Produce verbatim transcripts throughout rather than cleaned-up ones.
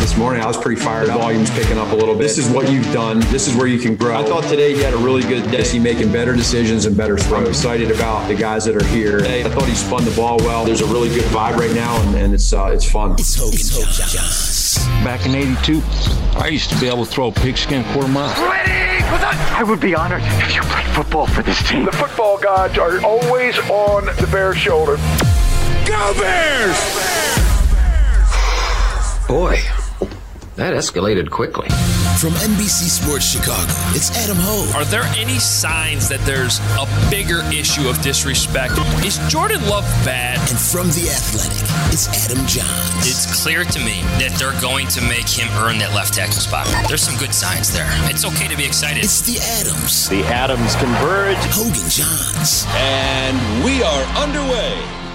this morning. I was pretty fired up. Volume's picking up a little bit. This is what you've done. This is where you can grow. I thought today he had a really good day. He's making better decisions and better throws. I'm excited about the guys that are here. I thought he spun the ball well. There's a really good vibe right now, and, and it's uh, it's fun. It's Hogan Johns. Back in eighty-two, I used to be able to throw a pigskin quarter mile. Ready for that? I would be honored if you played football for this team. The football gods are always on the Bears' shoulder. Go Bears! Boy, that escalated quickly. From N B C Sports Chicago, it's Adam Hogue. Are there any signs that there's a bigger issue of disrespect? Is Jordan Love bad? And from The Athletic, it's Adam Johns. It's clear to me that they're going to make him earn that left tackle spot. There's some good signs there. It's okay to be excited. It's the Adams. The Adams converge. Hogan Johns. And we are underway.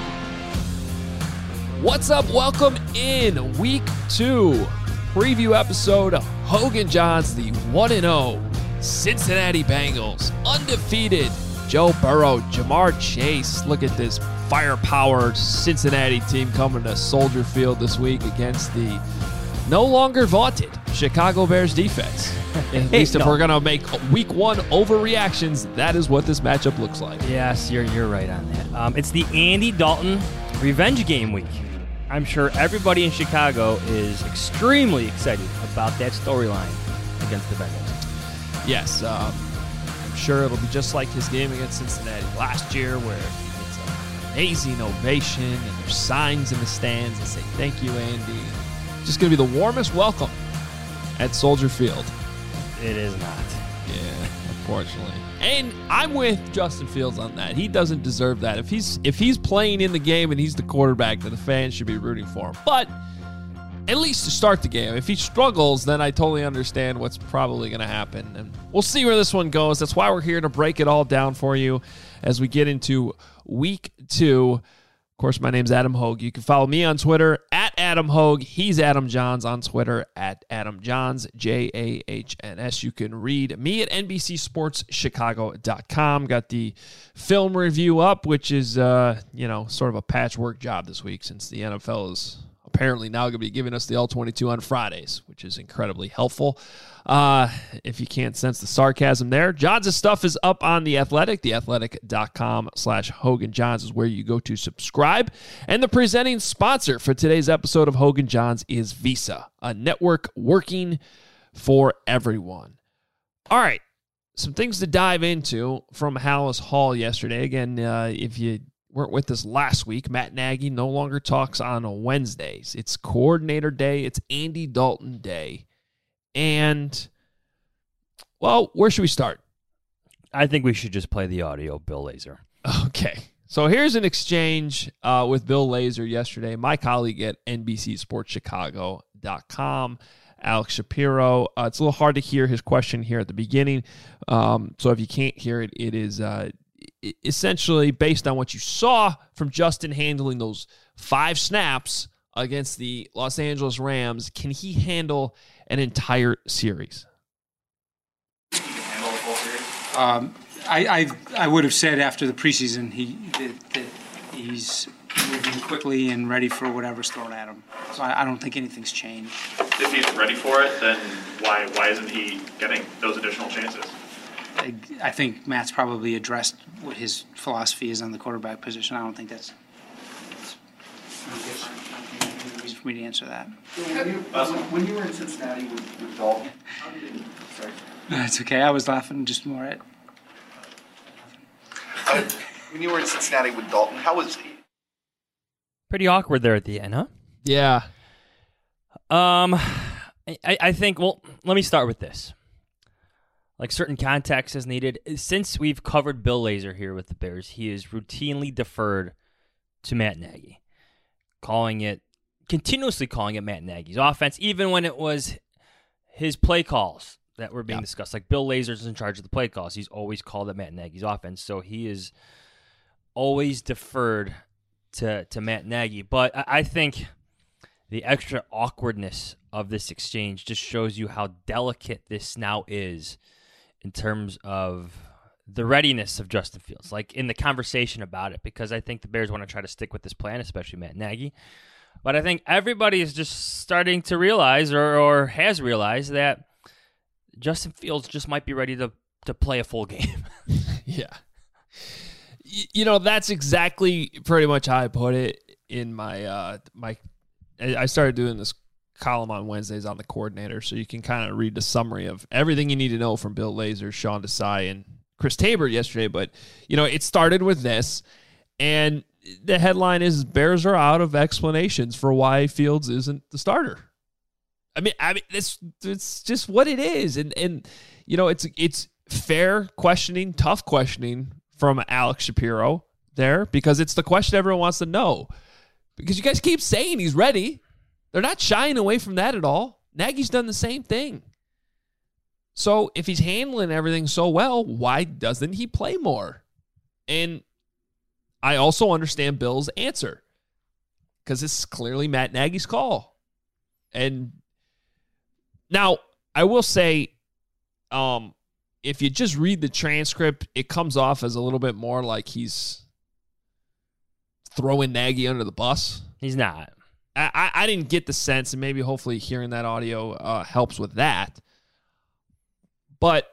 What's up? Welcome in week two preview episode of Hogan Johns, the one and oh Cincinnati Bengals, undefeated. Joe Burrow, Jamar Chase. Look at this firepower Cincinnati team coming to Soldier Field this week against the no longer vaunted Chicago Bears defense. At least if no. we're going to make week one overreactions, that is what this matchup looks like. Yes, you're you're right on that. Um, it's the Andy Dalton revenge game week. I'm sure everybody in Chicago is extremely excited about that storyline against the Bengals. Yes, um, I'm sure it'll be just like his game against Cincinnati last year, where it's an amazing ovation and there's signs in the stands that say, "Thank you, Andy." Just going to be the warmest welcome at Soldier Field. It is not. Yeah, unfortunately. And I'm with Justin Fields on that. He doesn't deserve that. If he's if he's playing in the game and he's the quarterback, then the fans should be rooting for him. But at least to start the game. If he struggles, then I totally understand what's probably going to happen. And we'll see where this one goes. That's why we're here to break it all down for you as we get into week two. Of course, my name's Adam Hogue. You can follow me on Twitter at Adam Hogue. He's Adam Johns on Twitter at Adam Johns, J A H N S. You can read me at N B C Sports Chicago dot com. Got the film review up, which is, uh, you know, sort of a patchwork job this week since the N F L is apparently now going to be giving us the all twenty-two on Fridays, which is incredibly helpful. Uh, if you can't sense the sarcasm there, Johns' stuff is up on The Athletic. The Athletic dot com slash Hogan Johns is where you go to subscribe. And the presenting sponsor for today's episode of Hogan Johns is Visa, a network working for everyone. All right, some things to dive into from Halas Hall yesterday. Again, uh, if you weren't with us last week, Matt Nagy no longer talks on Wednesdays. It's coordinator day. It's Andy Dalton day. And, well, where should we start? I think we should just play the audio, Bill Lazor. Okay. So here's an exchange uh, with Bill Lazor yesterday. My colleague at N B C Sports Chicago dot com, Alex Shapiro. Uh, it's a little hard to hear his question here at the beginning. Um, so if you can't hear it, it is uh, essentially based on what you saw from Justin handling those five snaps against the Los Angeles Rams. Can he handle an entire series? Um, I, I I would have said after the preseason he that, that he's moving quickly and ready for whatever's thrown at him. So I, I don't think anything's changed. If he's ready for it, then why why isn't he getting those additional chances? I, I think Matt's probably addressed what his philosophy is on the quarterback position. I don't think that's, that's reason for me to answer that. When you, when you were in Cincinnati with, with Dalton, how did it, sorry. That's okay. I was laughing just more at. Uh, when you were in Cincinnati with Dalton, how was he? Pretty awkward there at the end, huh? Yeah. Um, I, I think, well, let me start with this. Like, certain context is needed. Since we've covered Bill Lazor here with the Bears, he is routinely deferred to Matt Nagy, calling it, continuously calling it Matt Nagy's offense, even when it was his play calls that were being yeah. discussed. Like, Bill Lazor's in charge of the play calls. He's always called it Matt Nagy's offense, so he is always deferred to, to Matt Nagy. But I, I think the extra awkwardness of this exchange just shows you how delicate this now is in terms of the readiness of Justin Fields, like in the conversation about it, because I think the Bears want to try to stick with this plan, especially Matt Nagy. But I think everybody is just starting to realize or, or has realized that Justin Fields just might be ready to, to play a full game. Yeah. You know, that's exactly pretty much how I put it in my, uh, my, I started doing this column on Wednesdays on the Coordinator, so you can kind of read the summary of everything you need to know from Bill Lazor, Sean Desai, and Chris Tabor yesterday. But, you know, it started with this, and the headline is Bears are out of explanations for why Fields isn't the starter. I mean, I mean, it's it's just what it is, and and you know, it's it's fair questioning, tough questioning from Alex Shapiro there, because it's the question everyone wants to know. Because you guys keep saying he's ready, they're not shying away from that at all. Nagy's done the same thing. So if he's handling everything so well, why doesn't he play more? And I also understand Bill's answer, because it's clearly Matt Nagy's call. And now, I will say, um, if you just read the transcript, it comes off as a little bit more like he's throwing Nagy under the bus. He's not. I, I, I didn't get the sense, and maybe hopefully hearing that audio uh, helps with that. But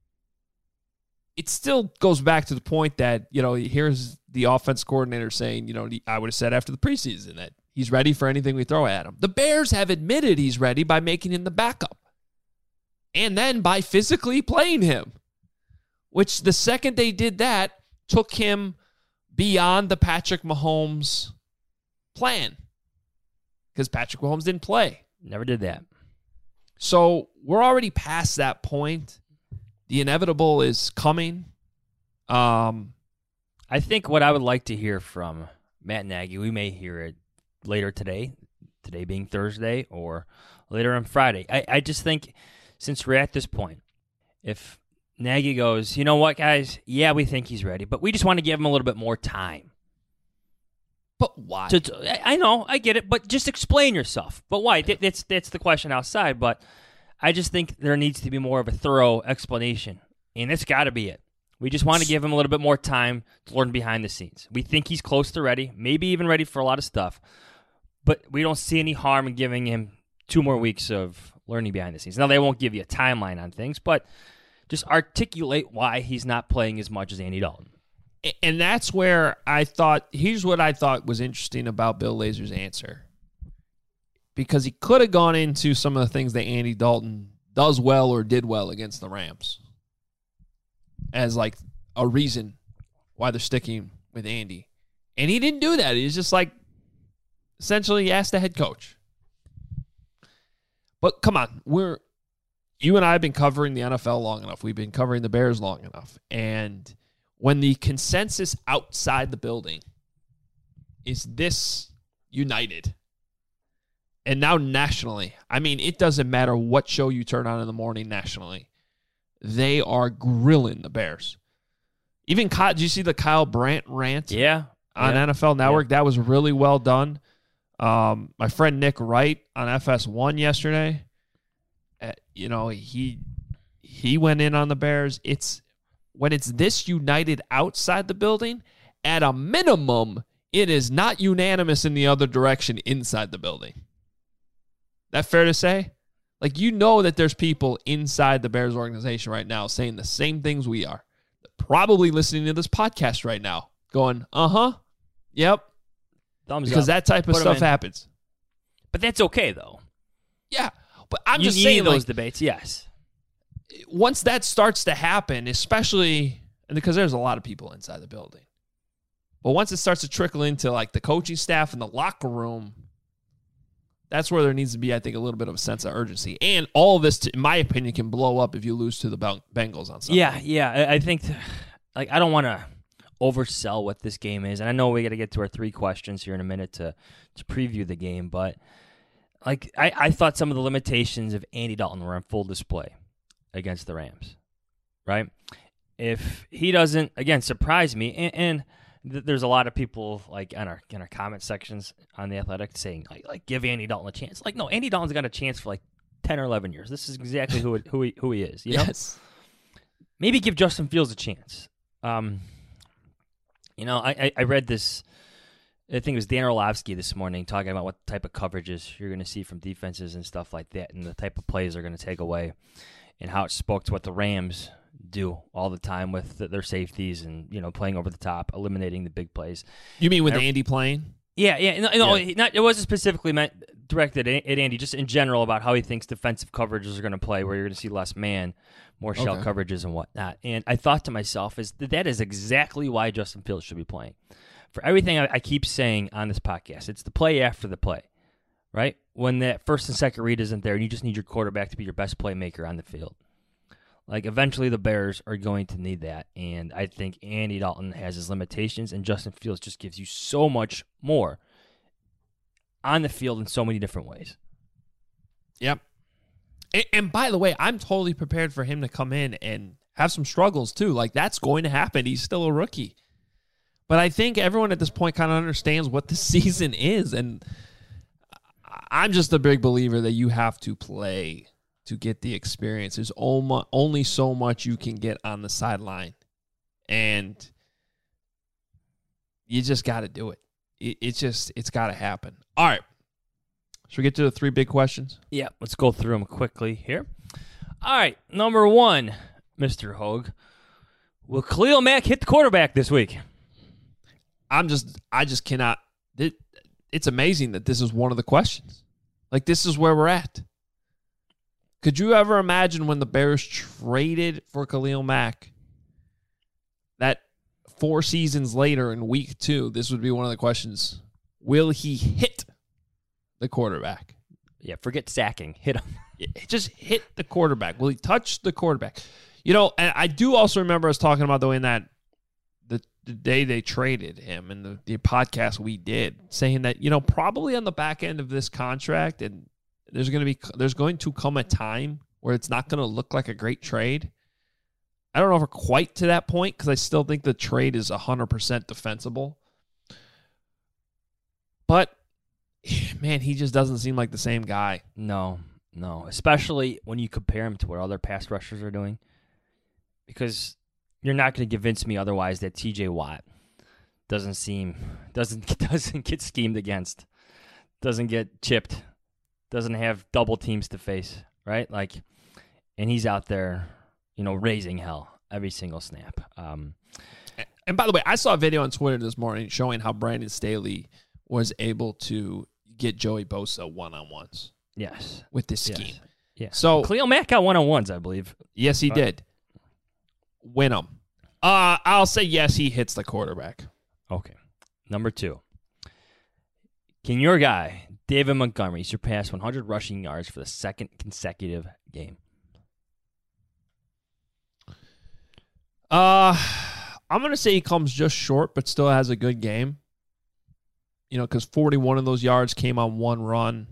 it still goes back to the point that, you know, here's the offense coordinator saying, you know, I would have said after the preseason that he's ready for anything we throw at him. The Bears have admitted he's ready by making him the backup, and then by physically playing him, which the second they did that took him beyond the Patrick Mahomes plan, because Patrick Mahomes didn't play. Never did that. So we're already past that point. The inevitable is coming. Um, I think what I would like to hear from Matt Nagy, we may hear it later today, today being Thursday, or later on Friday. I, I just think since we're at this point, if Nagy goes, you know what, guys, yeah, we think he's ready, but we just want to give him a little bit more time. But why? To, to, I know, I get it, but just explain yourself. But why? That, that's, that's the question outside, but I just think there needs to be more of a thorough explanation, and it's got to be it. We just want to give him a little bit more time to learn behind the scenes. We think he's close to ready, maybe even ready for a lot of stuff, but we don't see any harm in giving him two more weeks of learning behind the scenes. Now, they won't give you a timeline on things, but just articulate why he's not playing as much as Andy Dalton. And that's where I thought, here's what I thought was interesting about Bill Lazor's answer. Because he could have gone into some of the things that Andy Dalton does well or did well against the Rams as like a reason why they're sticking with Andy. And he didn't do that. He's just like, essentially he asked the head coach. But come on, we're you and I have been covering the N F L long enough. We've been covering the Bears long enough. And when the consensus outside the building is this united, and now nationally, I mean, it doesn't matter what show you turn on in the morning nationally, they are grilling the Bears. Even Kyle, did you see the Kyle Brandt rant? Yeah. On yeah. N F L Network? Yeah. That was really well done. Um, my friend Nick Wright on F S one yesterday, uh, you know, he he went in on the Bears. It's when it's this united outside the building, at a minimum, it is not unanimous in the other direction inside the building. That fair to say? Like, you know that there's people inside the Bears organization right now saying the same things we are. They're probably listening to this podcast right now going, uh-huh, yep. Thumbs because up. that type of Put 'em stuff in. happens. But that's okay, though. Yeah, but I'm you just need saying, those like, debates, yes. Once that starts to happen, especially and because there's a lot of people inside the building, but once it starts to trickle into like the coaching staff and the locker room, that's where there needs to be, I think, a little bit of a sense of urgency. And all of this, in my opinion, can blow up if you lose to the Bengals on Sunday. Yeah, yeah. I, I think, like, I don't want to oversell what this game is, and I know we got to get to our three questions here in a minute to to preview the game, but like I, I thought some of the limitations of Andy Dalton were on full display against the Rams, right? If he doesn't, again, surprise me, and, and th- there's a lot of people like in our in our comment sections on The Athletic saying like, like give Andy Dalton a chance. Like, no, Andy Dalton's got a chance for like ten or eleven years. This is exactly who it, who he who he is. You know? Yes. Maybe give Justin Fields a chance. Um, you know, I, I, I read this I think it was Dan Orlovsky this morning talking about what type of coverages you're going to see from defenses and stuff like that, and the type of plays they're going to take away, and how it spoke to what the Rams do all the time with the, their safeties and, you know, playing over the top, eliminating the big plays. You mean with and, Andy playing? Yeah, yeah. No, no yeah. Not, it wasn't specifically meant directed at Andy, just in general about how he thinks defensive coverages are going to play, where you're going to see less man, more shell okay. coverages and whatnot. And I thought to myself, is that, that is exactly why Justin Fields should be playing. For everything I, I keep saying on this podcast, it's the play after the play, right? When that first and second read isn't there, and you just need your quarterback to be your best playmaker on the field. Like, eventually the Bears are going to need that, and I think Andy Dalton has his limitations, and Justin Fields just gives you so much more on the field in so many different ways. Yep. And, and by the way, I'm totally prepared for him to come in and have some struggles too. Like, that's going to happen. He's still a rookie. But I think everyone at this point kind of understands what the season is, and I'm just a big believer that you have to play to get the experience. There's only so much you can get on the sideline, and you just got to do it. It's just, it's got to happen. All right. Should we get to the three big questions? Yeah, let's go through them quickly here. All right, number one, Mister Hogue. Will Khalil Mack hit the quarterback this week? I'm just, I just cannot. It, it's amazing that this is one of the questions. Like, this is where we're at. Could you ever imagine when the Bears traded for Khalil Mack that four seasons later in week two, this would be one of the questions. Will he hit the quarterback? Yeah, forget sacking. Hit him. Just hit the quarterback. Will he touch the quarterback? You know, and I do also remember us talking about the way in that the, the day they traded him and the, the podcast we did, saying that, you know, probably on the back end of this contract, and there's going to be there's going to come a time where it's not going to look like a great trade. I don't know if we're quite to that point, because I still think the trade is one hundred percent defensible. But, man, he just doesn't seem like the same guy. No, no. Especially when you compare him to what other pass rushers are doing. Because you're not going to convince me otherwise that T J Watt doesn't seem, doesn't, doesn't get schemed against, doesn't get chipped, doesn't have double teams to face, right? Like, and he's out there, you know, raising hell every single snap. Um, and by the way, I saw a video on Twitter this morning showing how Brandon Staley was able to get Joey Bosa one-on-ones. Yes. With this scheme. Yes. Yeah. So Khalil Mack got one-on-ones, I believe. Yes, he but, did. Win them. Uh, I'll say yes, he hits the quarterback. Okay. Number two. Can your guy, David Montgomery, surpass one hundred rushing yards for the second consecutive game? Uh, I'm going to say he comes just short, but still has a good game. You know, because forty-one of those yards came on one run.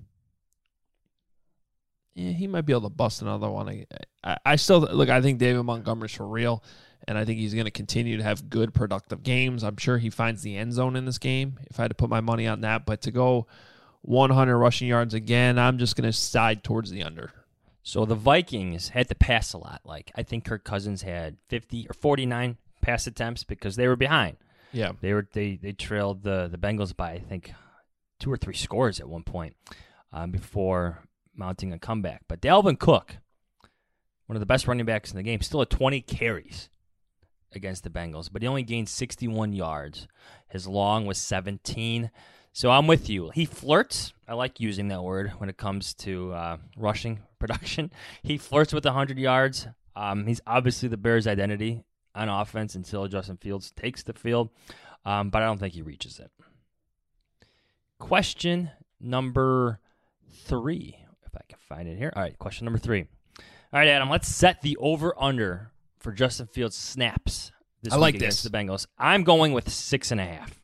Yeah, he might be able to bust another one. I, I, I still, look, I think David Montgomery's for real, and I think he's going to continue to have good, productive games. I'm sure he finds the end zone in this game, if I had to put my money on that. But to go one hundred rushing yards again, I'm just going to side towards the under. So the Vikings had to pass a lot. Like, I think Kirk Cousins had fifty or forty-nine pass attempts because they were behind. Yeah. They were they they trailed the, the Bengals by, I think, two or three scores at one point um, before mounting a comeback. But Dalvin Cook, one of the best running backs in the game, still had twenty carries against the Bengals, but he only gained sixty-one yards. His long was seventeen. So I'm with you. He flirts. I like using that word when it comes to uh, rushing production. He flirts with one hundred yards. Um, he's obviously the Bears' identity on offense until Justin Fields takes the field, um, but I don't think he reaches it. Question number three, if I can find it here. All right, question number three. All right, Adam, let's set the over-under for Justin Fields snaps this I week like against this. the Bengals. I'm going with six and a half.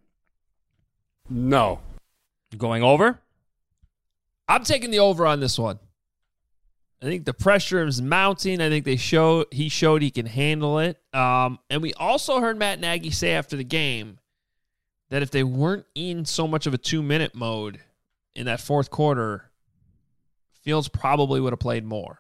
No. Going over? I'm taking the over on this one. I think the pressure is mounting. I think they show he showed he can handle it. Um, and we also heard Matt Nagy say after the game that if they weren't in so much of a two-minute mode in that fourth quarter, Fields probably would have played more.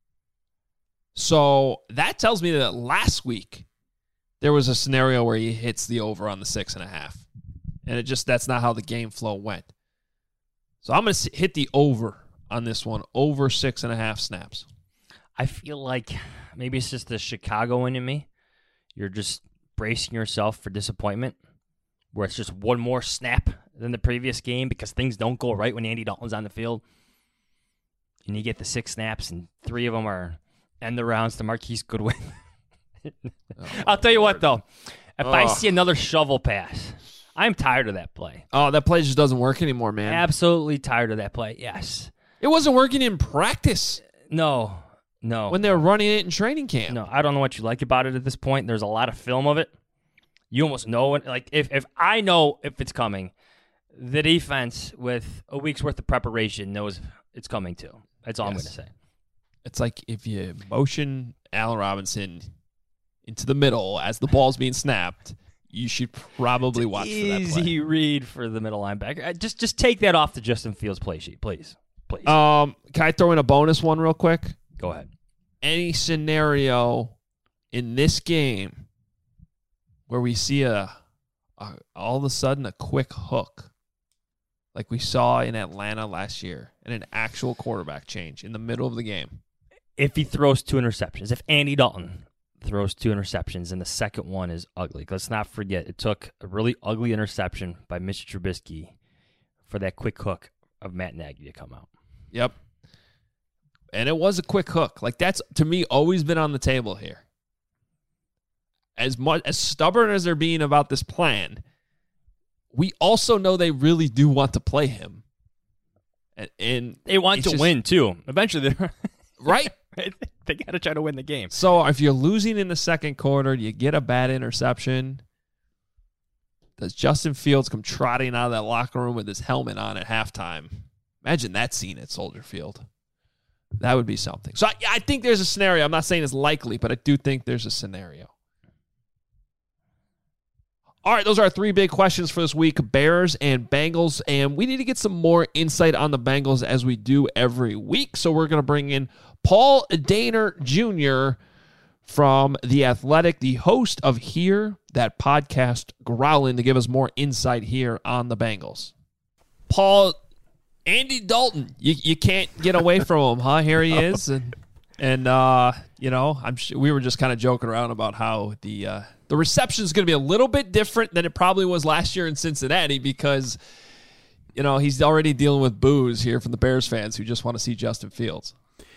So that tells me that last week there was a scenario where he hits the over on the six and a half. And it just that's not how the game flow went. So I'm going to hit the over on this one, over six and a half snaps. I feel like maybe it's just the Chicagoan in me. You're just bracing yourself for disappointment, where it's just one more snap than the previous game because things don't go right when Andy Dalton's on the field. And you get the six snaps, and three of them are end the rounds to Marquise Goodwin. oh, I'll tell you Lord. what, though. If oh. I see another shovel pass, I'm tired of that play. Oh, that play just doesn't work anymore, man. Absolutely tired of that play, yes. It wasn't working in practice. No, no. When they were running it in training camp. No, I don't know what you like about it at this point. There's a lot of film of it. You almost know it. Like, if, if I know if it's coming, the defense with a week's worth of preparation knows it's coming too. That's all yes. I'm going to say. It's like if you motion Allen Robinson into the middle as the ball's being snapped, you should probably watch for that play. Easy read for the middle linebacker. Just just take that off the Justin Fields play sheet, please. Please. Um, can I throw in a bonus one real quick? Go ahead. Any scenario in this game where we see a, a all of a sudden a quick hook, like we saw in Atlanta last year, and an actual quarterback change in the middle of the game. If he throws two interceptions, if Andy Dalton throws two interceptions and the second one is ugly, let's not forget it took a really ugly interception by Mister Trubisky for that quick hook of Matt Nagy to come out. Yep. And it was a quick hook. Like, that's, to me, always been on the table here. As much as stubborn as they're being about this plan, we also know they really do want to play him. And, and they want to just win, too. Eventually, they're right? They got to try to win the game. So if you're losing in the second quarter, you get a bad interception. Does Justin Fields come trotting out of that locker room with his helmet on at halftime? Imagine that scene at Soldier Field. That would be something. So I, I think there's a scenario. I'm not saying it's likely, but I do think there's a scenario. All right, those are our three big questions for this week, Bears and Bengals, and we need to get some more insight on the Bengals as we do every week. So we're going to bring in Paul Dehner Junior from The Athletic, the host of Hear That Podcast, Growlin', to give us more insight here on the Bengals. Paul, Andy Dalton, you you can't get away from him, huh? Here he is, and and uh, you know, I'm sure we were just kind of joking around about how the uh, the reception is going to be a little bit different than it probably was last year in Cincinnati because, you know, he's already dealing with boos here from the Bears fans who just want to see Justin Fields.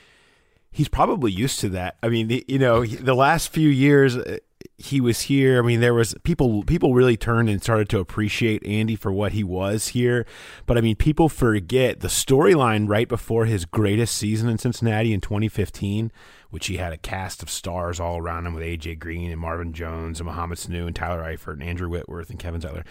He's probably used to that. I mean, the, you know, the last few years he was here. I mean, there was people, people really turned and started to appreciate Andy for what he was here. But I mean, people forget the storyline right before his greatest season in Cincinnati in twenty fifteen, which he had a cast of stars all around him with A J Green and Marvin Jones and Mohamed Sanu and Tyler Eifert and Andrew Whitworth and Kevin Zeitler.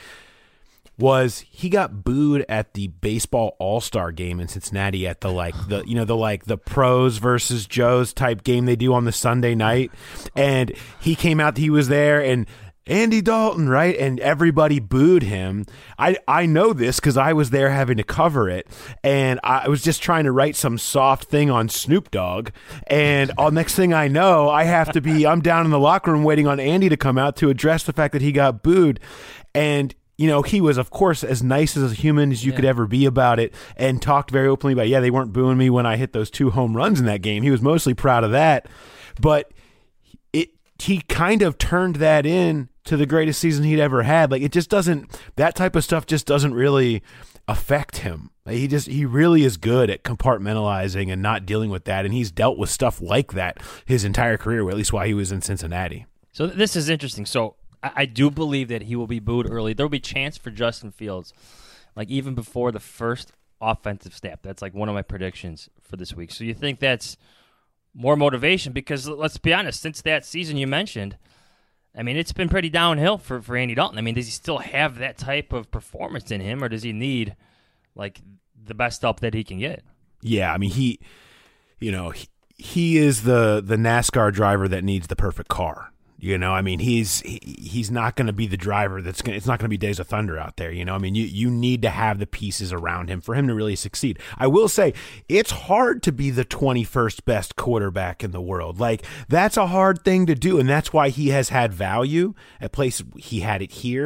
Was he got booed at the baseball all-star game in Cincinnati at the like the you know the like the pros versus Joes type game they do on the Sunday night, and he came out, he was there, and Andy Dalton, right, and everybody booed him. I I know this because I was there having to cover it, and I was just trying to write some soft thing on Snoop Dogg, and all next thing I know, I have to be I'm down in the locker room waiting on Andy to come out to address the fact that he got booed, and you know, he was, of course, as nice as a human as you yeah. could ever be about it and talked very openly about, yeah, they weren't booing me when I hit those two home runs in that game. He was mostly proud of that. But it he kind of turned that in to the greatest season he'd ever had. Like, it just doesn't – that type of stuff just doesn't really affect him. He just he really is good at compartmentalizing and not dealing with that, and he's dealt with stuff like that his entire career, or at least while he was in Cincinnati. So this is interesting. So – I do believe that he will be booed early. There will be a chance for Justin Fields, like even before the first offensive snap. That's like one of my predictions for this week. So you think that's more motivation? Because let's be honest, since that season you mentioned, I mean, it's been pretty downhill for, for Andy Dalton. I mean, does he still have that type of performance in him, or does he need like the best help that he can get? Yeah, I mean, he, you know, he, he is the the NASCAR driver that needs the perfect car. You know, I mean, he's he, he's not going to be the driver that's going. It's not going to be Days of Thunder out there. You know, I mean, you you need to have the pieces around him for him to really succeed. I will say, it's hard to be the twenty-first best quarterback in the world. Like, that's a hard thing to do, and that's why he has had value at places. He had it here.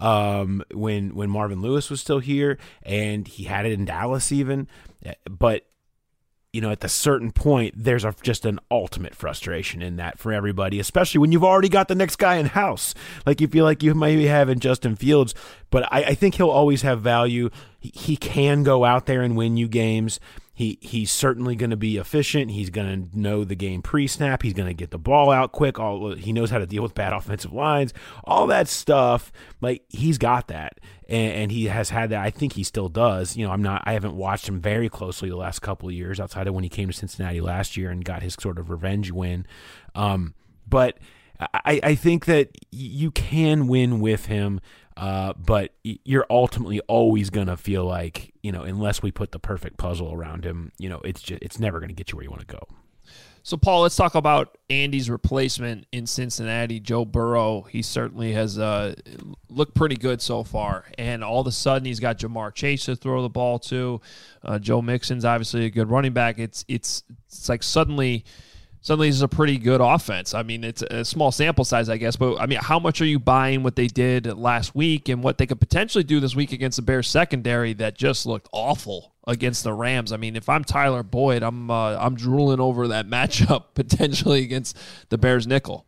um, when when Marvin Lewis was still here, and he had it in Dallas even. But you know, at the certain point, there's a, just an ultimate frustration in that for everybody, especially when you've already got the next guy in house. Like you feel like you might be having Justin Fields, but I, I think he'll always have value. He, he can go out there and win you games. He he's certainly going to be efficient. He's going to know the game pre-snap. He's going to get the ball out quick. All he knows how to deal with bad offensive lines. All that stuff, like he's got that, and, and he has had that. I think he still does. You know, I'm not. I haven't watched him very closely the last couple of years, outside of when he came to Cincinnati last year and got his sort of revenge win. Um, but I, I think that you can win with him. Uh, but you're ultimately always going to feel like, you know, unless we put the perfect puzzle around him, you know, it's just, it's never going to get you where you want to go. So, Paul, let's talk about Andy's replacement in Cincinnati, Joe Burrow. He certainly has uh, looked pretty good so far. And all of a sudden, he's got Jamar Chase to throw the ball to. Uh, Joe Mixon's obviously a good running back. It's it's it's like suddenly... Suddenly, this is a pretty good offense. I mean, it's a small sample size, I guess. But, I mean, how much are you buying what they did last week and what they could potentially do this week against the Bears secondary that just looked awful against the Rams? I mean, if I'm Tyler Boyd, I'm uh, I'm drooling over that matchup potentially against the Bears nickel.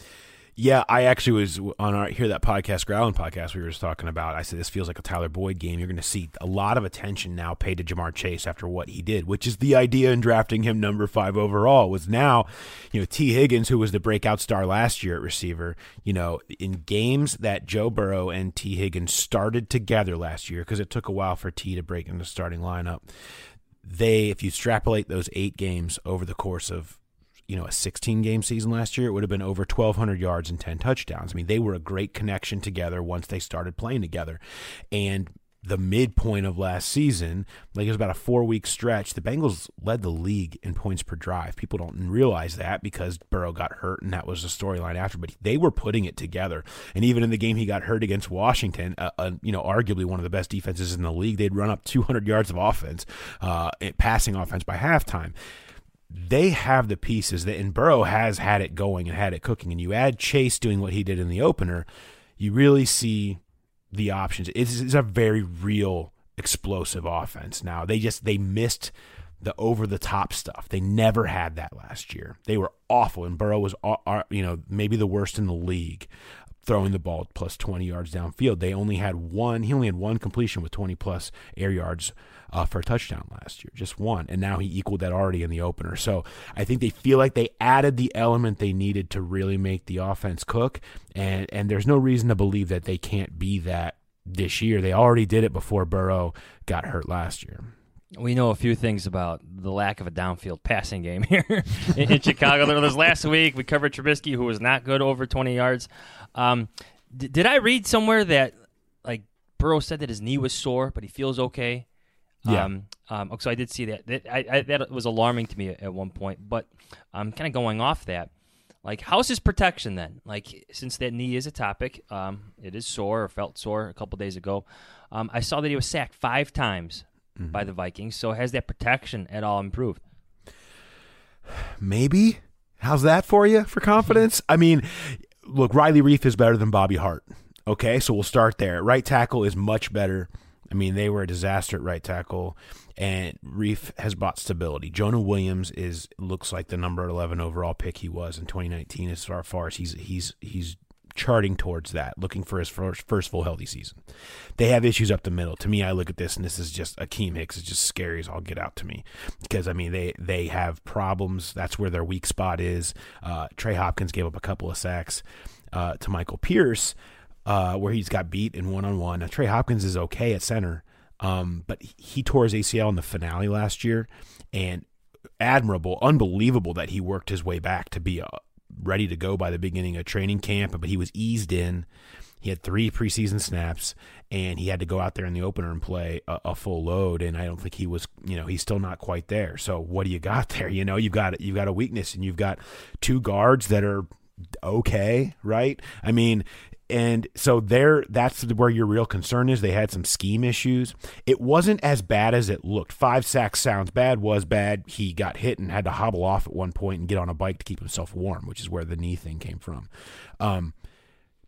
Yeah, I actually was on our Hear That Podcast, Growlin' podcast we were just talking about. I said this feels like a Tyler Boyd game. You're going to see a lot of attention now paid to Jamar Chase after what he did, which is the idea in drafting him number five overall. Was now, you know, T. Higgins, who was the breakout star last year at receiver, you know, in games that Joe Burrow and T. Higgins started together last year, because it took a while for T to break into the starting lineup. They, if you extrapolate those eight games over the course of, you know, a sixteen-game season last year, it would have been over twelve hundred yards and ten touchdowns. I mean, they were a great connection together once they started playing together. And the midpoint of last season, like it was about a four-week stretch, the Bengals led the league in points per drive. People don't realize that because Burrow got hurt, and that was the storyline after. But they were putting it together. And even in the game he got hurt against Washington, uh, uh, you know, arguably one of the best defenses in the league, they'd run up two hundred yards of offense, uh, passing offense by halftime. They have the pieces that, and Burrow has had it going and had it cooking. And you add Chase doing what he did in the opener, you really see the options. It's, it's a very real explosive offense. Now they just they missed the over the top stuff. They never had that last year. They were awful, and Burrow was you know maybe the worst in the league throwing the ball plus twenty yards downfield. They only had one. He only had one completion with twenty plus air yards Uh, for a touchdown last year, just one, and now he equaled that already in the opener. So I think they feel like they added the element they needed to really make the offense cook, and and there's no reason to believe that they can't be that this year. They already did it before Burrow got hurt last year. We know a few things about the lack of a downfield passing game here in, in Chicago. There was last week we covered Trubisky, who was not good over twenty yards. Um, d- did I read somewhere that like Burrow said that his knee was sore, but he feels okay? Yeah. Um, um, so I did see that. That, I, I, that was alarming to me at, at one point. But I'm um, kind of going off that. Like, how's his protection then? Like, since that knee is a topic, um, it is sore or felt sore a couple days ago. Um, I saw that he was sacked five times mm-hmm. by the Vikings. So has that protection at all improved? Maybe. How's that for you for confidence? I mean, look, Riley Reiff is better than Bobby Hart. Okay, so we'll start there. Right tackle is much better. I mean, they were a disaster at right tackle, and Reiff has brought stability. Jonah Williams is looks like the number eleven overall pick he was in twenty nineteen as far, far as he's he's he's charting towards that, looking for his first, first full healthy season. They have issues up the middle. To me, I look at this, and this is just Akeem Hicks is just scary as all get out to me because, I mean, they, they have problems. That's where their weak spot is. Uh, Trey Hopkins gave up a couple of sacks uh, to Michael Pierce, Uh, where he's got beat in one-on-one. Now, Trey Hopkins is okay at center, um, but he tore his A C L in the finale last year, and admirable, unbelievable that he worked his way back to be uh, ready to go by the beginning of training camp, but he was eased in. He had three preseason snaps, and he had to go out there in the opener and play a, a full load, and I don't think he was, you know, he's still not quite there. So what do you got there? You know, you've got, you've got a weakness, and you've got two guards that are okay, right? I mean, and so there, that's where your real concern is. They had some scheme issues. It wasn't as bad as it looked. Five sacks sounds bad, was bad. He got hit and had to hobble off at one point and get on a bike to keep himself warm, which is where the knee thing came from. Um,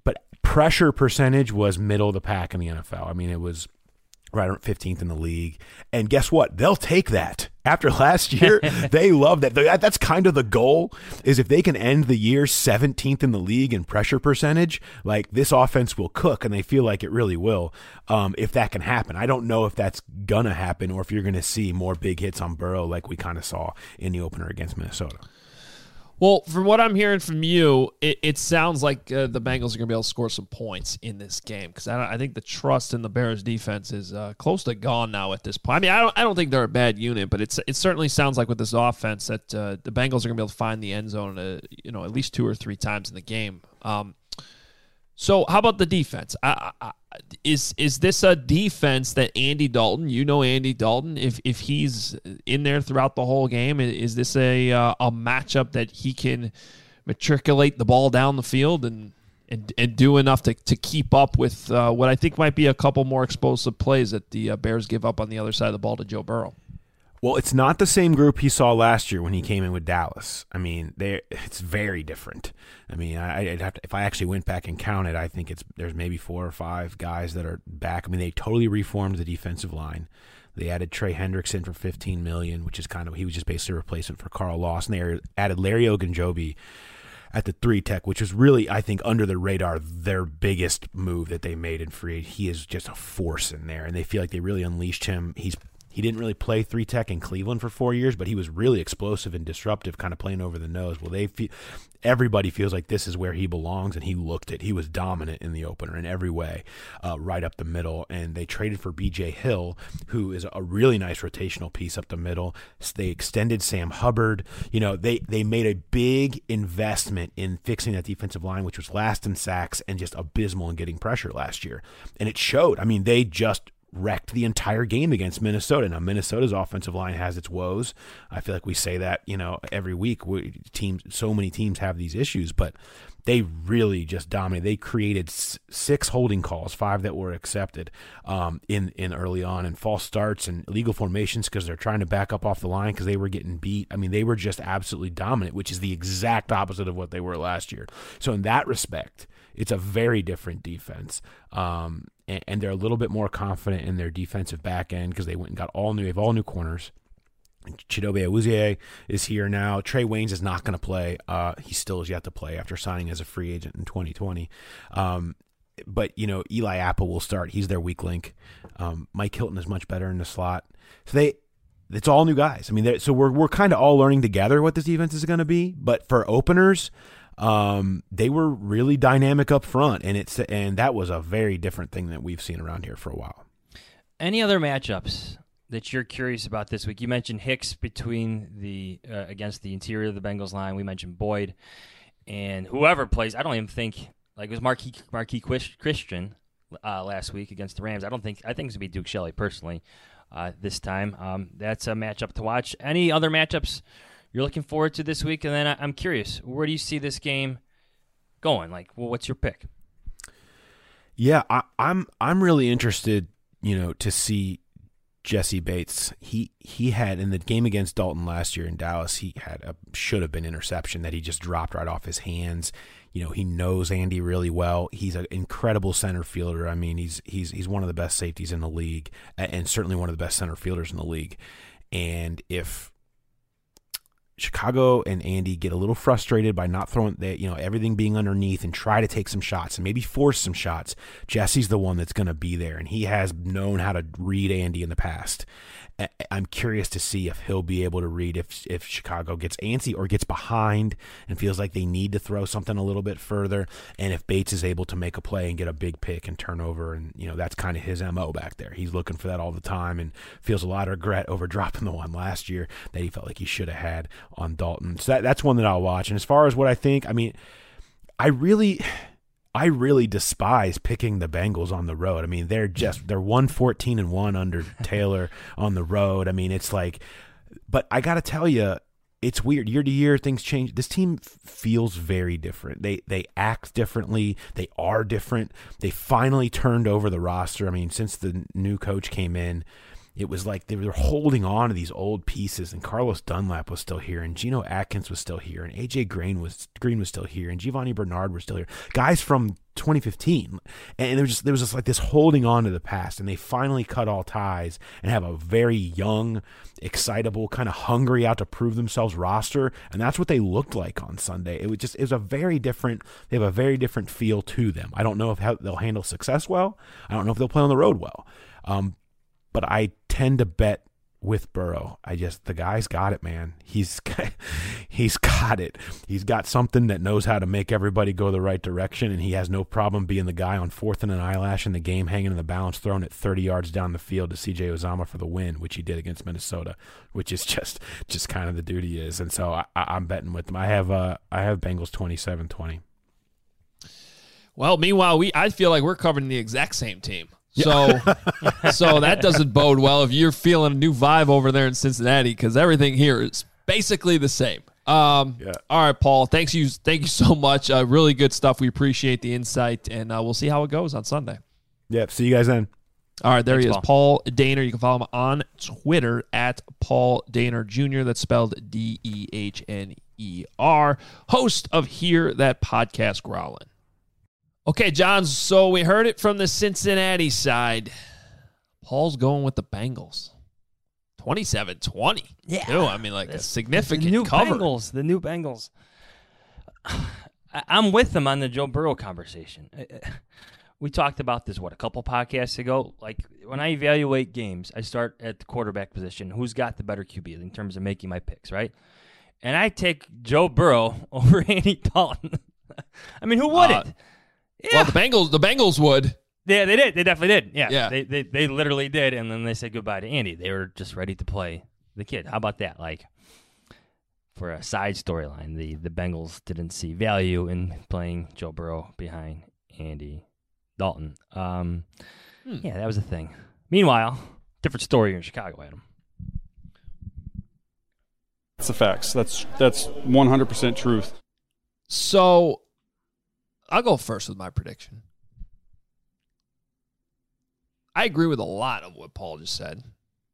but pressure percentage was middle of the pack in the N F L. I mean, it was right around fifteenth in the league. And guess what? They'll take that. After last year, they love that. That's kind of the goal, is if they can end the year seventeenth in the league in pressure percentage, like this offense will cook, and they feel like it really will, um, if that can happen. I don't know if that's going to happen or if you're going to see more big hits on Burrow like we kind of saw in the opener against Minnesota. Well, from what I'm hearing from you, it, it sounds like uh, the Bengals are going to be able to score some points in this game, because I, I think the trust in the Bears defense is uh, close to gone now at this point. I mean, I don't I don't think they're a bad unit, but it's it certainly sounds like with this offense that uh, the Bengals are going to be able to find the end zone uh, you know, at least two or three times in the game. Um, so how about the defense? I, I, is is this a defense that Andy Dalton, you know Andy Dalton, if if he's in there throughout the whole game, is this a uh, a matchup that he can matriculate the ball down the field and and, and do enough to, to keep up with uh, what I think might be a couple more explosive plays that the uh, Bears give up on the other side of the ball to Joe Burrow? Well, it's not the same group he saw last year when he came in with Dallas. I mean, they it's very different. I mean, I, I'd have to, if I actually went back and counted, I think it's there's maybe four or five guys that are back. I mean, they totally reformed the defensive line. They added Trey Hendrickson for fifteen million dollars, which is kind of he was just basically a replacement for Carl Lawson. They added Larry Ogunjobi at the three tech, which was really, I think, under the radar, their biggest move that they made in free agency. He is just a force in there, and they feel like they really unleashed him. He's He didn't really play three tech in Cleveland for four years, but he was really explosive and disruptive, kind of playing over the nose. Well, they feel, everybody feels like this is where he belongs, and he looked it. He was dominant in the opener in every way, uh, right up the middle. And they traded for B J Hill, who is a really nice rotational piece up the middle. They extended Sam Hubbard. You know, they they made a big investment in fixing that defensive line, which was last in sacks and just abysmal in getting pressure last year. And it showed. I mean, they just wrecked the entire game against Minnesota. Now, Minnesota's offensive line has its woes. I feel like we say that, you know, every week. We, teams, so many teams have these issues, but they really just dominated. They created s- six holding calls, five that were accepted um, in in early on, and false starts and illegal formations because they're trying to back up off the line because they were getting beat. I mean, they were just absolutely dominant, which is the exact opposite of what they were last year. So in that respect, it's a very different defense. Um, and, and they're a little bit more confident in their defensive back end because they went and got all new, they have all new corners. Chidobe Awuzie is here now. Trey Waynes is not going to play. Uh, he still is yet to play after signing as a free agent in twenty twenty. Um, but, you know, Eli Apple will start. He's their weak link. Um, Mike Hilton is much better in the slot. So they, it's all new guys. I mean, so we're we're kind of all learning together what this defense is going to be. But for openers, um, they were really dynamic up front, and it's and that was a very different thing that we've seen around here for a while. Any other matchups that you're curious about this week? You mentioned Hicks between the uh, against the interior of the Bengals line. We mentioned Boyd, and whoever plays. I don't even think like it was Marquis Marquis Christian uh, last week against the Rams. I don't think I think it's gonna be Duke Shelley personally uh, this time. Um, that's a matchup to watch. Any other matchups you're looking forward to this week? And then I, I'm curious, where do you see this game going? Like, well, what's your pick? Yeah, I, I'm I'm really interested, you know, to see Jesse Bates. He he had in the game against Dalton last year in Dallas, he had a should have been interception that he just dropped right off his hands. You know, he knows Andy really well. He's an incredible center fielder. I mean, he's he's he's one of the best safeties in the league, and certainly one of the best center fielders in the league. And if Chicago and Andy get a little frustrated by not throwing, the, you know, everything being underneath and try to take some shots and maybe force some shots, Jesse's the one that's going to be there, and he has known how to read Andy in the past. I'm curious to see if he'll be able to read if if Chicago gets antsy or gets behind and feels like they need to throw something a little bit further, and if Bates is able to make a play and get a big pick and turnover, and you know that's kind of his M O back there. He's looking for that all the time and feels a lot of regret over dropping the one last year that he felt like he should have had on Dalton. So that, that's one that I'll watch. And as far as what I think, I mean, I really... I really despise picking the Bengals on the road. I mean, they're just they're one fourteen and one under Taylor on the road. I mean, it's like, but I got to tell you, it's weird. Year to year, things change. This team feels very different. They they act differently. They are different. They finally turned over the roster. I mean, since the new coach came in, it was like they were holding on to these old pieces, and Carlos Dunlap was still here, and Geno Atkins was still here, and A J Green was Green was still here, and Giovanni Bernard was still here. Guys from twenty fifteen, and there was just there was just like this holding on to the past, and they finally cut all ties and have a very young, excitable, kind of hungry out to prove themselves roster, and that's what they looked like on Sunday. It was just it was a very different. They have a very different feel to them. I don't know if how they'll handle success well. I don't know if they'll play on the road well, um, but I tend to bet with Burrow. I just the guy's got it, man. He's he's got it. He's got something that knows how to make everybody go the right direction, and he has no problem being the guy on fourth and an eyelash in the game, hanging in the balance, throwing it thirty yards down the field to C J Uzomah for the win, which he did against Minnesota, which is just just kind of the dude he is. And so I, I'm betting with them. I have uh I have Bengals twenty-seven twenty. Well, meanwhile, we I feel like we're covering the exact same team. So, so that doesn't bode well if you're feeling a new vibe over there in Cincinnati, because everything here is basically the same. Um, yeah. All right, Paul. Thanks you. Thank you so much. Uh, really good stuff. We appreciate the insight, and uh, we'll see how it goes on Sunday. Yep. See you guys then. All right, there Thanks, he is, Paul. Paul Dehner. You can follow him on Twitter at Paul Dehner Junior That's spelled D E H N E R. Host of Hear That Podcast Growlin'. Okay, John, so we heard it from the Cincinnati side. Paul's going with the Bengals. twenty-seven twenty. Yeah. Too. I mean, like a significant the new cover. Bengals, the new Bengals. I- I'm with them on the Joe Burrow conversation. We talked about this, what, a couple podcasts ago? Like, when I evaluate games, I start at the quarterback position. Who's got the better Q B in terms of making my picks, right? And I take Joe Burrow over Andy Dalton. I mean, who wouldn't? Uh, Yeah. Well, the Bengals, the Bengals would. Yeah, they did. They definitely did. Yeah, yeah. They, they they literally did, and then they said goodbye to Andy. They were just ready to play the kid. How about that? Like, for a side storyline, the, the Bengals didn't see value in playing Joe Burrow behind Andy Dalton. Um, hmm. Yeah, that was a thing. Meanwhile, different story here in Chicago, Adam. That's the facts. That's that's one hundred percent truth. So, I'll go first with my prediction. I agree with a lot of what Paul just said.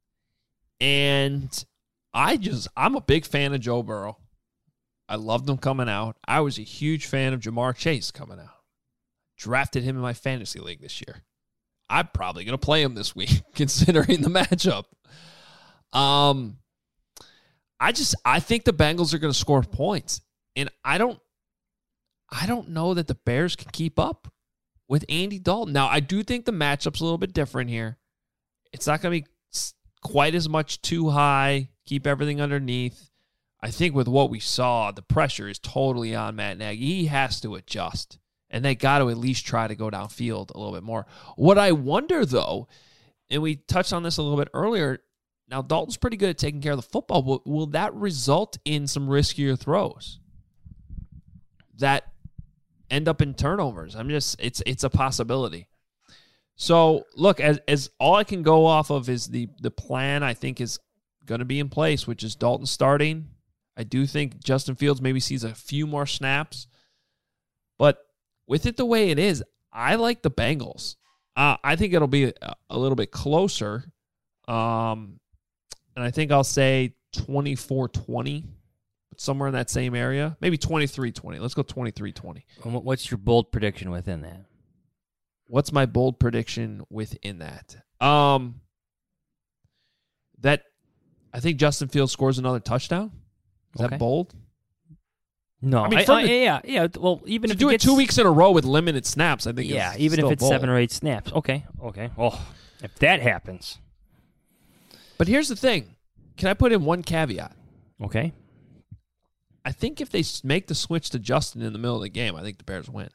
And I just, I'm a big fan of Joe Burrow. I loved him coming out. I was a huge fan of Jamar Chase coming out. Drafted him in my fantasy league this year. I'm probably going to play him this week, considering the matchup. Um, I just, I think the Bengals are going to score points. And I don't, I don't know that the Bears can keep up with Andy Dalton. Now, I do think the matchup's a little bit different here. It's not going to be quite as much too high, keep everything underneath. I think with what we saw, the pressure is totally on Matt Nagy. He has to adjust, and they got to at least try to go downfield a little bit more. What I wonder, though, and we touched on this a little bit earlier, now Dalton's pretty good at taking care of the football. Will, will that result in some riskier throws that end up in turnovers? I'm just, it's it's a possibility. So, look, as as all I can go off of is the the plan I think is going to be in place, which is Dalton starting. I do think Justin Fields maybe sees a few more snaps. But with it the way it is, I like the Bengals. Uh, I think it'll be a, a little bit closer. Um, and I think I'll say twenty-four twenty. Somewhere in that same area. Maybe twenty-three twenty. Let's go twenty-three twenty. What's your bold prediction within that? What's my bold prediction within that? Um, that I think Justin Fields scores another touchdown. Is okay. that bold? No. I mean, I, from I, the, yeah, yeah. Well, even to if do it, it two weeks in a row with limited snaps, I think yeah, it's even if it's bold. seven or eight snaps. Okay, okay. Well, if that happens. But here's the thing. Can I put in one caveat? Okay. I think if they make the switch to Justin in the middle of the game, I think the Bears win.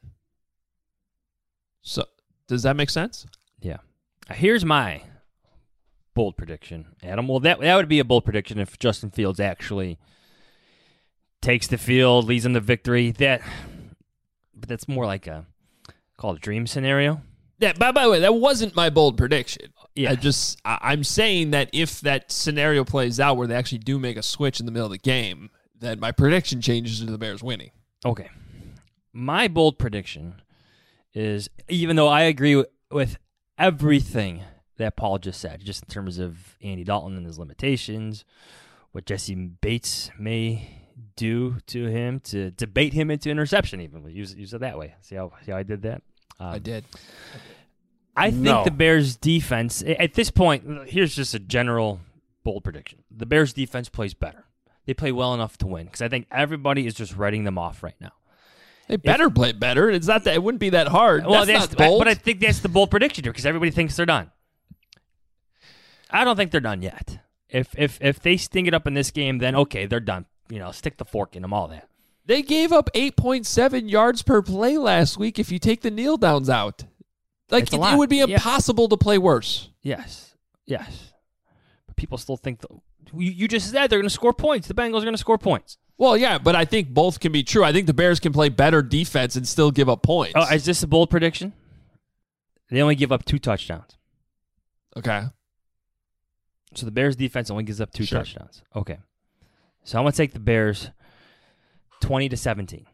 So, does that make sense? Yeah. Here's my bold prediction, Adam. Well, that that would be a bold prediction if Justin Fields actually takes the field, leads them to victory. That, but that's more like a called a dream scenario. Yeah. By, by the way, that wasn't my bold prediction. Yeah. I just I, I'm saying that if that scenario plays out where they actually do make a switch in the middle of the game, then my prediction changes to the Bears winning. Okay. My bold prediction is, even though I agree with, with everything that Paul just said, just in terms of Andy Dalton and his limitations, what Jesse Bates may do to him to debate him into interception, even use use it that way. See how see how I did that? Um, I did. I think No. the Bears defense, at this point, here's just a general bold prediction. The Bears defense plays better. They play well enough to win because I think everybody is just writing them off right now. They better play better. It's not that it wouldn't be that hard. Well, that's, that's, not bold. but I think that's the bold prediction here because everybody thinks they're done. I don't think they're done yet. If if if they sting it up in this game, then okay, they're done. You know, stick the fork in them, all that. They gave up eight point seven yards per play last week if you take the kneel downs out. Like, It's a it, lot. it would be Yeah. impossible to play worse. Yes, yes. But people still think the, you, you just said they're going to score points. The Bengals are going to score points. Well, yeah, but I think both can be true. I think the Bears can play better defense and still give up points. Oh, is this a bold prediction? They only give up two touchdowns. Okay. So the Bears defense only gives up two Sure. touchdowns. Okay. So I'm going to take the Bears twenty to seventeen.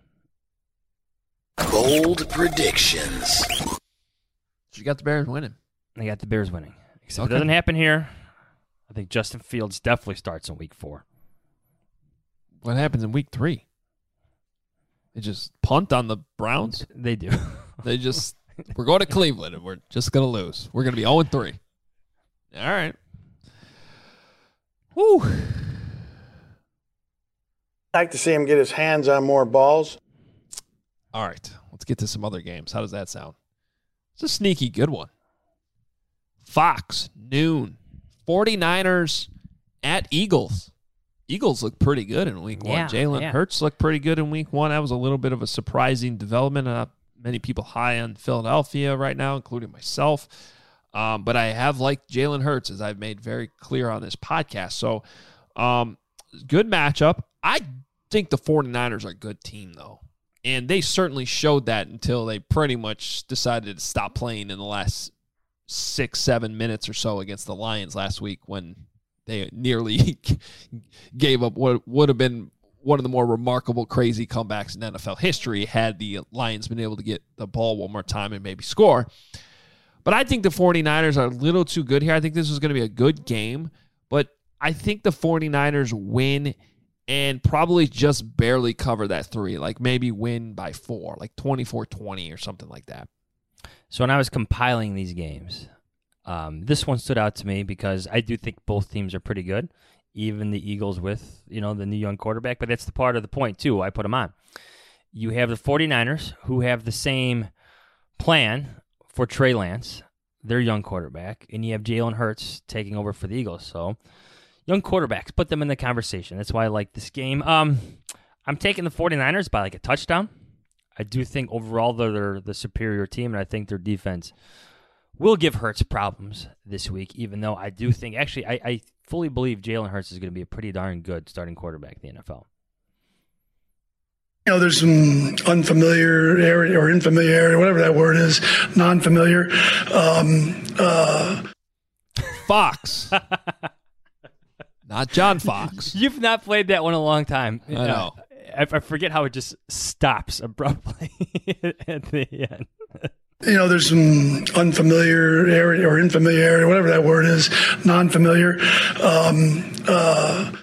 Bold predictions. You got the Bears winning. I got the Bears winning. Except Okay. it doesn't happen here. I think Justin Fields definitely starts in week four. What happens in week three? They just punt on the Browns? They do. They just, we're going to Cleveland and we're just going to lose. We're going to be oh and three. All right. Woo. Like to see him get his hands on more balls. All right. Let's get to some other games. How does that sound? It's a sneaky good one. Fox, noon. 49ers at Eagles. Eagles look pretty good in week one. Yeah, Jalen yeah. Hurts looked pretty good in week one. That was a little bit of a surprising development. Not many people high on Philadelphia right now, including myself. Um, but I have liked Jalen Hurts, as I've made very clear on this podcast. So, um, good matchup. I think the 49ers are a good team, though. And they certainly showed that until they pretty much decided to stop playing in the last six, seven minutes or so against the Lions last week when they nearly gave up what would have been one of the more remarkable, crazy comebacks in N F L history had the Lions been able to get the ball one more time and maybe score. But I think the 49ers are a little too good here. I think this is going to be a good game, but I think the 49ers win and probably just barely cover that three, like maybe win by four, like twenty-four twenty or something like that. So when I was compiling these games, um, this one stood out to me because I do think both teams are pretty good, even the Eagles with, you know, the new young quarterback. But that's the part of the point, too. I put them on. You have the 49ers, who have the same plan for Trey Lance, their young quarterback, and you have Jalen Hurts taking over for the Eagles. So young quarterbacks, put them in the conversation. That's why I like this game. Um, I'm taking the 49ers by like a touchdown. I do think overall they're the superior team, and I think their defense will give Hurts problems this week, even though I do think, actually, I, I fully believe Jalen Hurts is going to be a pretty darn good starting quarterback in the N F L. You know, there's some unfamiliar area or infamiliar, whatever that word is, non-familiar. Um, uh, Fox. Not John Fox. You've not played that one in a long time. I know. I, I forget how it just stops abruptly at the end. you know, there's some unfamiliar area or infamiliar area, whatever that word is, non-familiar. Um, uh,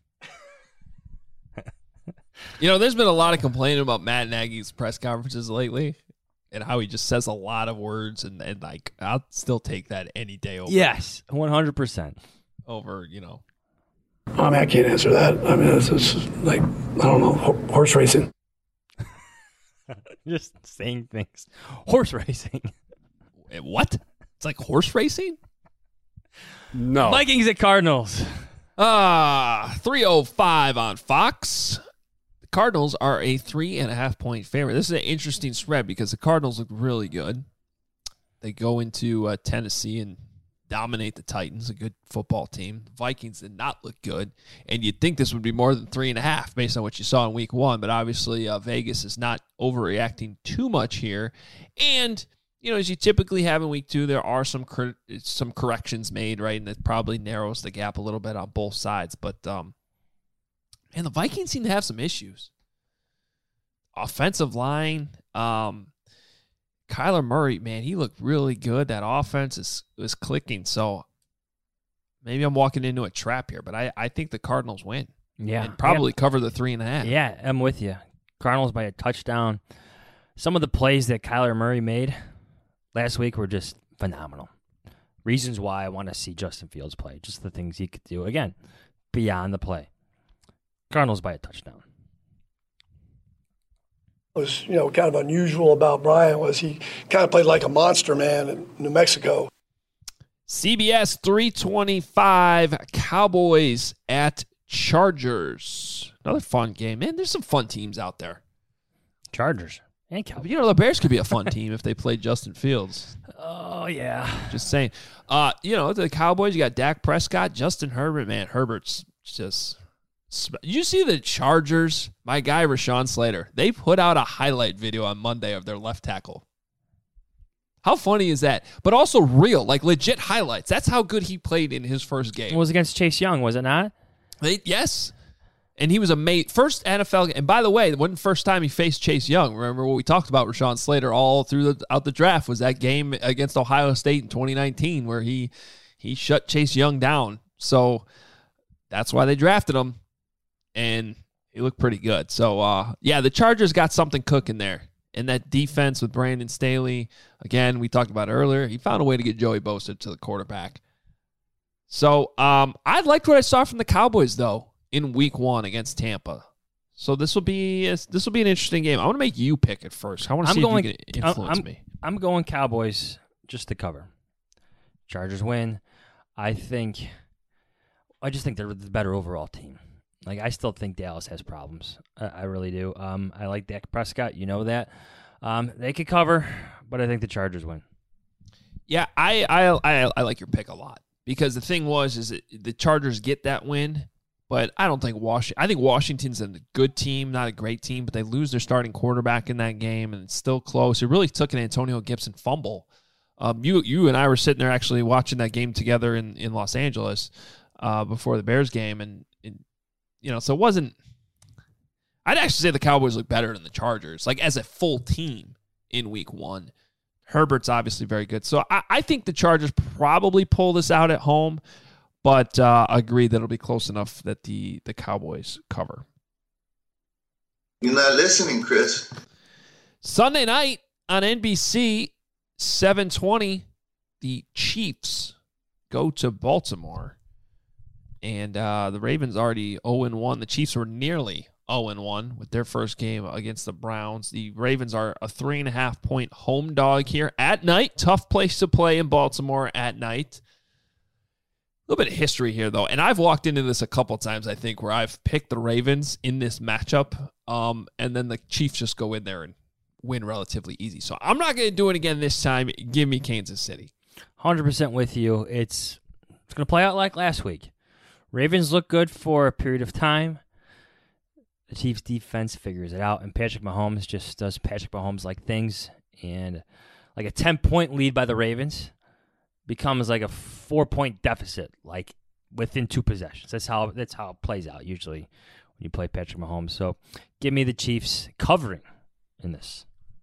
You know, there's been a lot of complaining about Matt Nagy's press conferences lately and how he just says a lot of words, and, and like, I'll still take that any day over. Yes, one hundred percent. Over, you know. I mean, I can't answer that. I mean, it's, it's like, I don't know, ho- horse racing. Just saying things. Horse racing. Wait, what? It's like horse racing? No. Vikings at Cardinals. Ah, uh, three oh five on Fox. The Cardinals are a three and a half point favorite. This is an interesting spread because the Cardinals look really good. They go into uh, Tennessee and dominate the Titans, a good football team. The Vikings did not look good, and you'd think this would be more than three and a half based on what you saw in week one, but obviously uh, Vegas is not overreacting too much here. And, you know, as you typically have in week two, there are some cor- some corrections made, right, and it probably narrows the gap a little bit on both sides. But, um, and the Vikings seem to have some issues. Offensive line, um, Kyler Murray, man, he looked really good. That offense is was clicking. So maybe I'm walking into a trap here, but I, I think the Cardinals win. Yeah. And probably yeah. cover the three and a half. Yeah, I'm with you. Cardinals by a touchdown. Some of the plays that Kyler Murray made last week were just phenomenal. Reasons why I want to see Justin Fields play. Just the things he could do. Again, beyond the play. Cardinals by a touchdown. What was, you know, kind of unusual about Brian was he kind of played like a monster man in New Mexico. C B S three twenty-five, Cowboys at Chargers. Another fun game. Man, there's some fun teams out there. Chargers and Cowboys. You know, the Bears could be a fun team if they played Justin Fields. Oh, yeah. Just saying. Uh, you know, the Cowboys, you got Dak Prescott, Justin Herbert. Man, Herbert's just... You see the Chargers, my guy Rashawn Slater, they put out a highlight video on Monday of their left tackle. How funny is that? But also real, like legit highlights. That's how good he played in his first game. It was against Chase Young, was it not? They, yes. And he was a mate. First N F L, and by the way, it wasn't the first time he faced Chase Young. Remember what we talked about Rashawn Slater all throughout the draft was that game against Ohio State in twenty nineteen where he he shut Chase Young down. So that's why they drafted him. And he looked pretty good. So, uh, yeah, the Chargers got something cooking there. And that defense with Brandon Staley, again, we talked about earlier, he found a way to get Joey Bosa to the quarterback. So, um, I liked what I saw from the Cowboys, though, in week one against Tampa. So this will be this will be an interesting game. I want to make you pick it first. I want to see going, if you can influence I'm, me. I'm going Cowboys just to cover. Chargers win. I think, I just think they're the better overall team. Like, I still think Dallas has problems. I, I really do. Um, I like Dak Prescott. You know that. Um, they could cover, but I think the Chargers win. Yeah, I I I, I like your pick a lot because the thing was is that the Chargers get that win, but I don't think Washington. I think Washington's a good team, not a great team, but they lose their starting quarterback in that game, and it's still close. It really took an Antonio Gibson fumble. Um, you you and I were sitting there actually watching that game together in in Los Angeles uh, before the Bears game, and. and You know, so it wasn't – I'd actually say the Cowboys look better than the Chargers, like as a full team in week one. Herbert's obviously very good. So I, I think the Chargers probably pull this out at home, but uh, agree that it'll be close enough that the, the Cowboys cover. You're not listening, Chris. Sunday night on N B C, seven twenty, the Chiefs go to Baltimore. And uh, the Ravens already oh and one. The Chiefs were nearly oh and one with their first game against the Browns. The Ravens are a three and a half point home dog here at night. Tough place to play in Baltimore at night. A little bit of history here, though. And I've walked into this a couple times, I think, where I've picked the Ravens in this matchup. Um, and then the Chiefs just go in there and win relatively easy. So I'm not going to do it again this time. Give me Kansas City. one hundred percent with you. It's, it's going to play out like last week. Ravens look good for a period of time. The Chiefs' defense figures it out, and Patrick Mahomes just does Patrick Mahomes-like things. And like a ten-point lead by the Ravens becomes like a four-point deficit, like within two possessions. That's how that's how it plays out usually when you play Patrick Mahomes. So give me the Chiefs covering in this.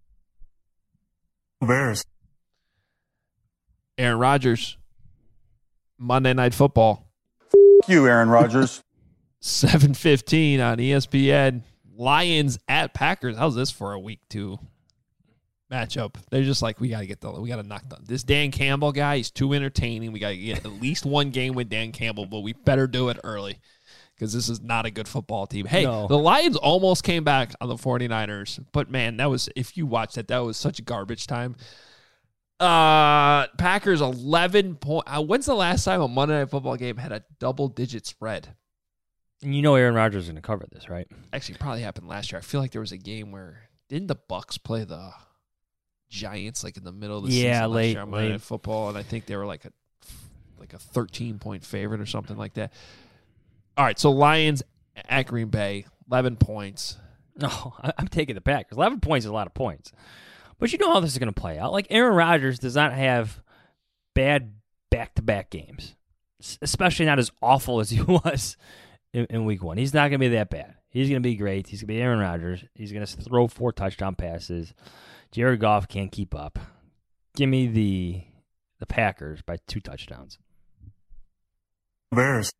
Bears. Aaron Rodgers, Monday Night Football. You, Aaron Rodgers. seven fifteen on E S P N. Lions at Packers. How's this for a week two matchup? They're just like, we got to get the, we got to knock down this Dan Campbell guy. He's too entertaining. We got to get at least one game with Dan Campbell, but we better do it early because this is not a good football team. Hey, no. The Lions almost came back on the 49ers, but man, that was, if you watched that, that was such garbage time. Uh, Packers eleven point. Uh, when's the last time a Monday Night Football game had a double digit spread? And you know Aaron Rodgers is going to cover this, right? Actually, it probably happened last year. I feel like there was a game where didn't the Bucks play the Giants like in the middle of the yeah, season late, last year on Monday late. Night Football, and I think they were like a like a thirteen point favorite or something like that. All right, so Lions at Green Bay, eleven points. No, I'm taking the Packers. eleven points is a lot of points. But you know how this is going to play out. Like, Aaron Rodgers does not have bad back-to-back games, especially not as awful as he was in, in week one. He's not going to be that bad. He's going to be great. He's going to be Aaron Rodgers. He's going to throw four touchdown passes. Jared Goff can't keep up. Give me the the Packers by two touchdowns. Bears.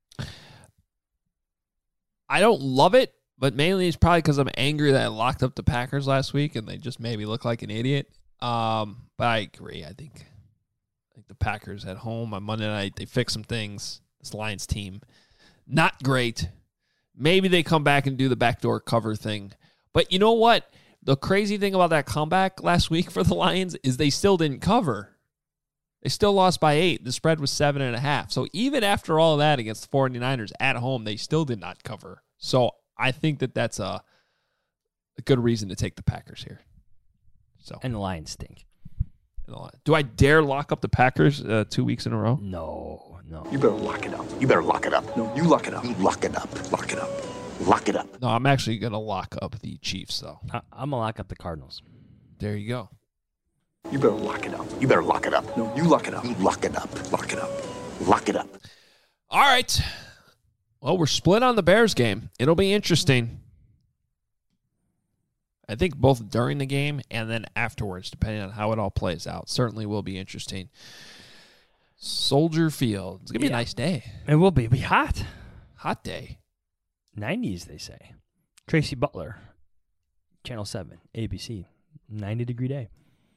I don't love it. But mainly it's probably because I'm angry that I locked up the Packers last week and they just made me look like an idiot. Um, but I agree. I think, I think the Packers at home on Monday night, they fix some things. This Lions team, not great. Maybe they come back and do the backdoor cover thing. But you know what? The crazy thing about that comeback last week for the Lions is they still didn't cover. They still lost by eight. The spread was seven and a half. So even after all of that against the 49ers at home, they still did not cover. So I think that that's a, a good reason to take the Packers here. So And the Lions stink. Do I dare lock up the Packers uh, two weeks in a row? No, no. You better lock it up. You better lock it up. No, you lock it up. You lock it up. Lock it up. Lock it up. No, I'm actually going to lock up the Chiefs, though. I- I'm going to lock up the Cardinals. There you go. You better lock it up. You better lock it up. No, you lock it up. You lock it up. Lock it up. Lock it up. All right. Well, we're split on the Bears game. It'll be interesting. I think both during the game and then afterwards, depending on how it all plays out, certainly will be interesting. Soldier Field. It's going to be Yeah. a nice day. It will be. It'll be hot. Hot day. nineties, they say. Tracy Butler, Channel seven, A B C, ninety-degree day.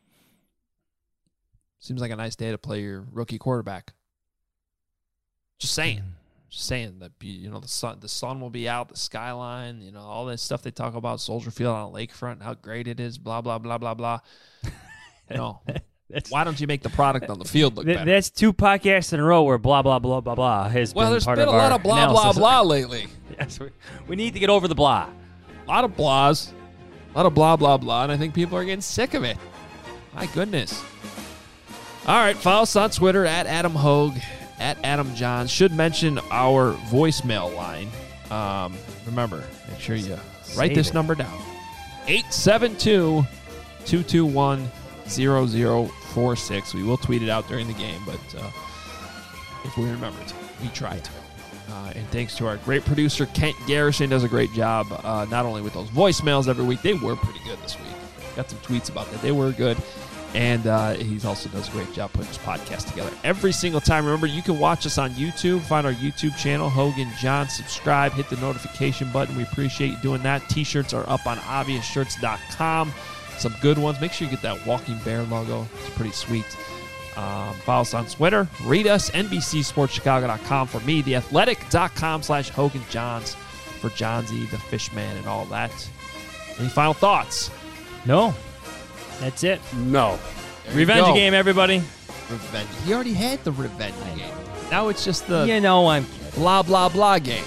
Seems like a nice day to play your rookie quarterback. Just saying. Just saying that, you know, the sun the sun will be out, the skyline, you know, all that stuff they talk about, Soldier Field on the lakefront, and how great it is, blah, blah, blah, blah, blah. You know, why don't you make the product on the field look Th- better? That's two podcasts in a row where blah, blah, blah, blah, blah has Well, been there's part been of a lot our of blah, analysis. blah, blah lately. Yes, we, we need to get over the blah. A lot of blahs. A lot of blah, blah, blah, and I think people are getting sick of it. My goodness. All right, follow us on Twitter at Adam Hogue, at Adam Johns. Should mention our voicemail line. Um, remember, make sure you write Save this it. number down. eight seven two, two two one, zero zero four six. We will tweet it out during the game, but uh, if we remember to, we try to. Uh, and thanks to our great producer, Kent Garrison, does a great job, uh, not only with those voicemails every week. They were pretty good this week. Got some tweets about that. They were good. And uh, he also does a great job putting his podcast together every single time. Remember, you can watch us on YouTube. Find our YouTube channel, Hogan John. Subscribe. Hit the notification button. We appreciate you doing that. T-shirts are up on obvious shirts dot com. Some good ones. Make sure you get that Walking Bear logo. It's pretty sweet. Um, follow us on Twitter. Read us, N B C Sports Chicago dot com for me. The Athletic dot com slash Hogan Johns for Johnsy, the Fishman, and all that. Any final thoughts? No. That's it. No. There you Revenge go. game, everybody. Revenge. He already had the revenge game. Now it's just the You know I'm blah, blah, blah game.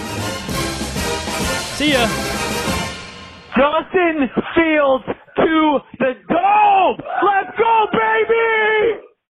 See ya. Justin Fields to the dome. Let's go, baby!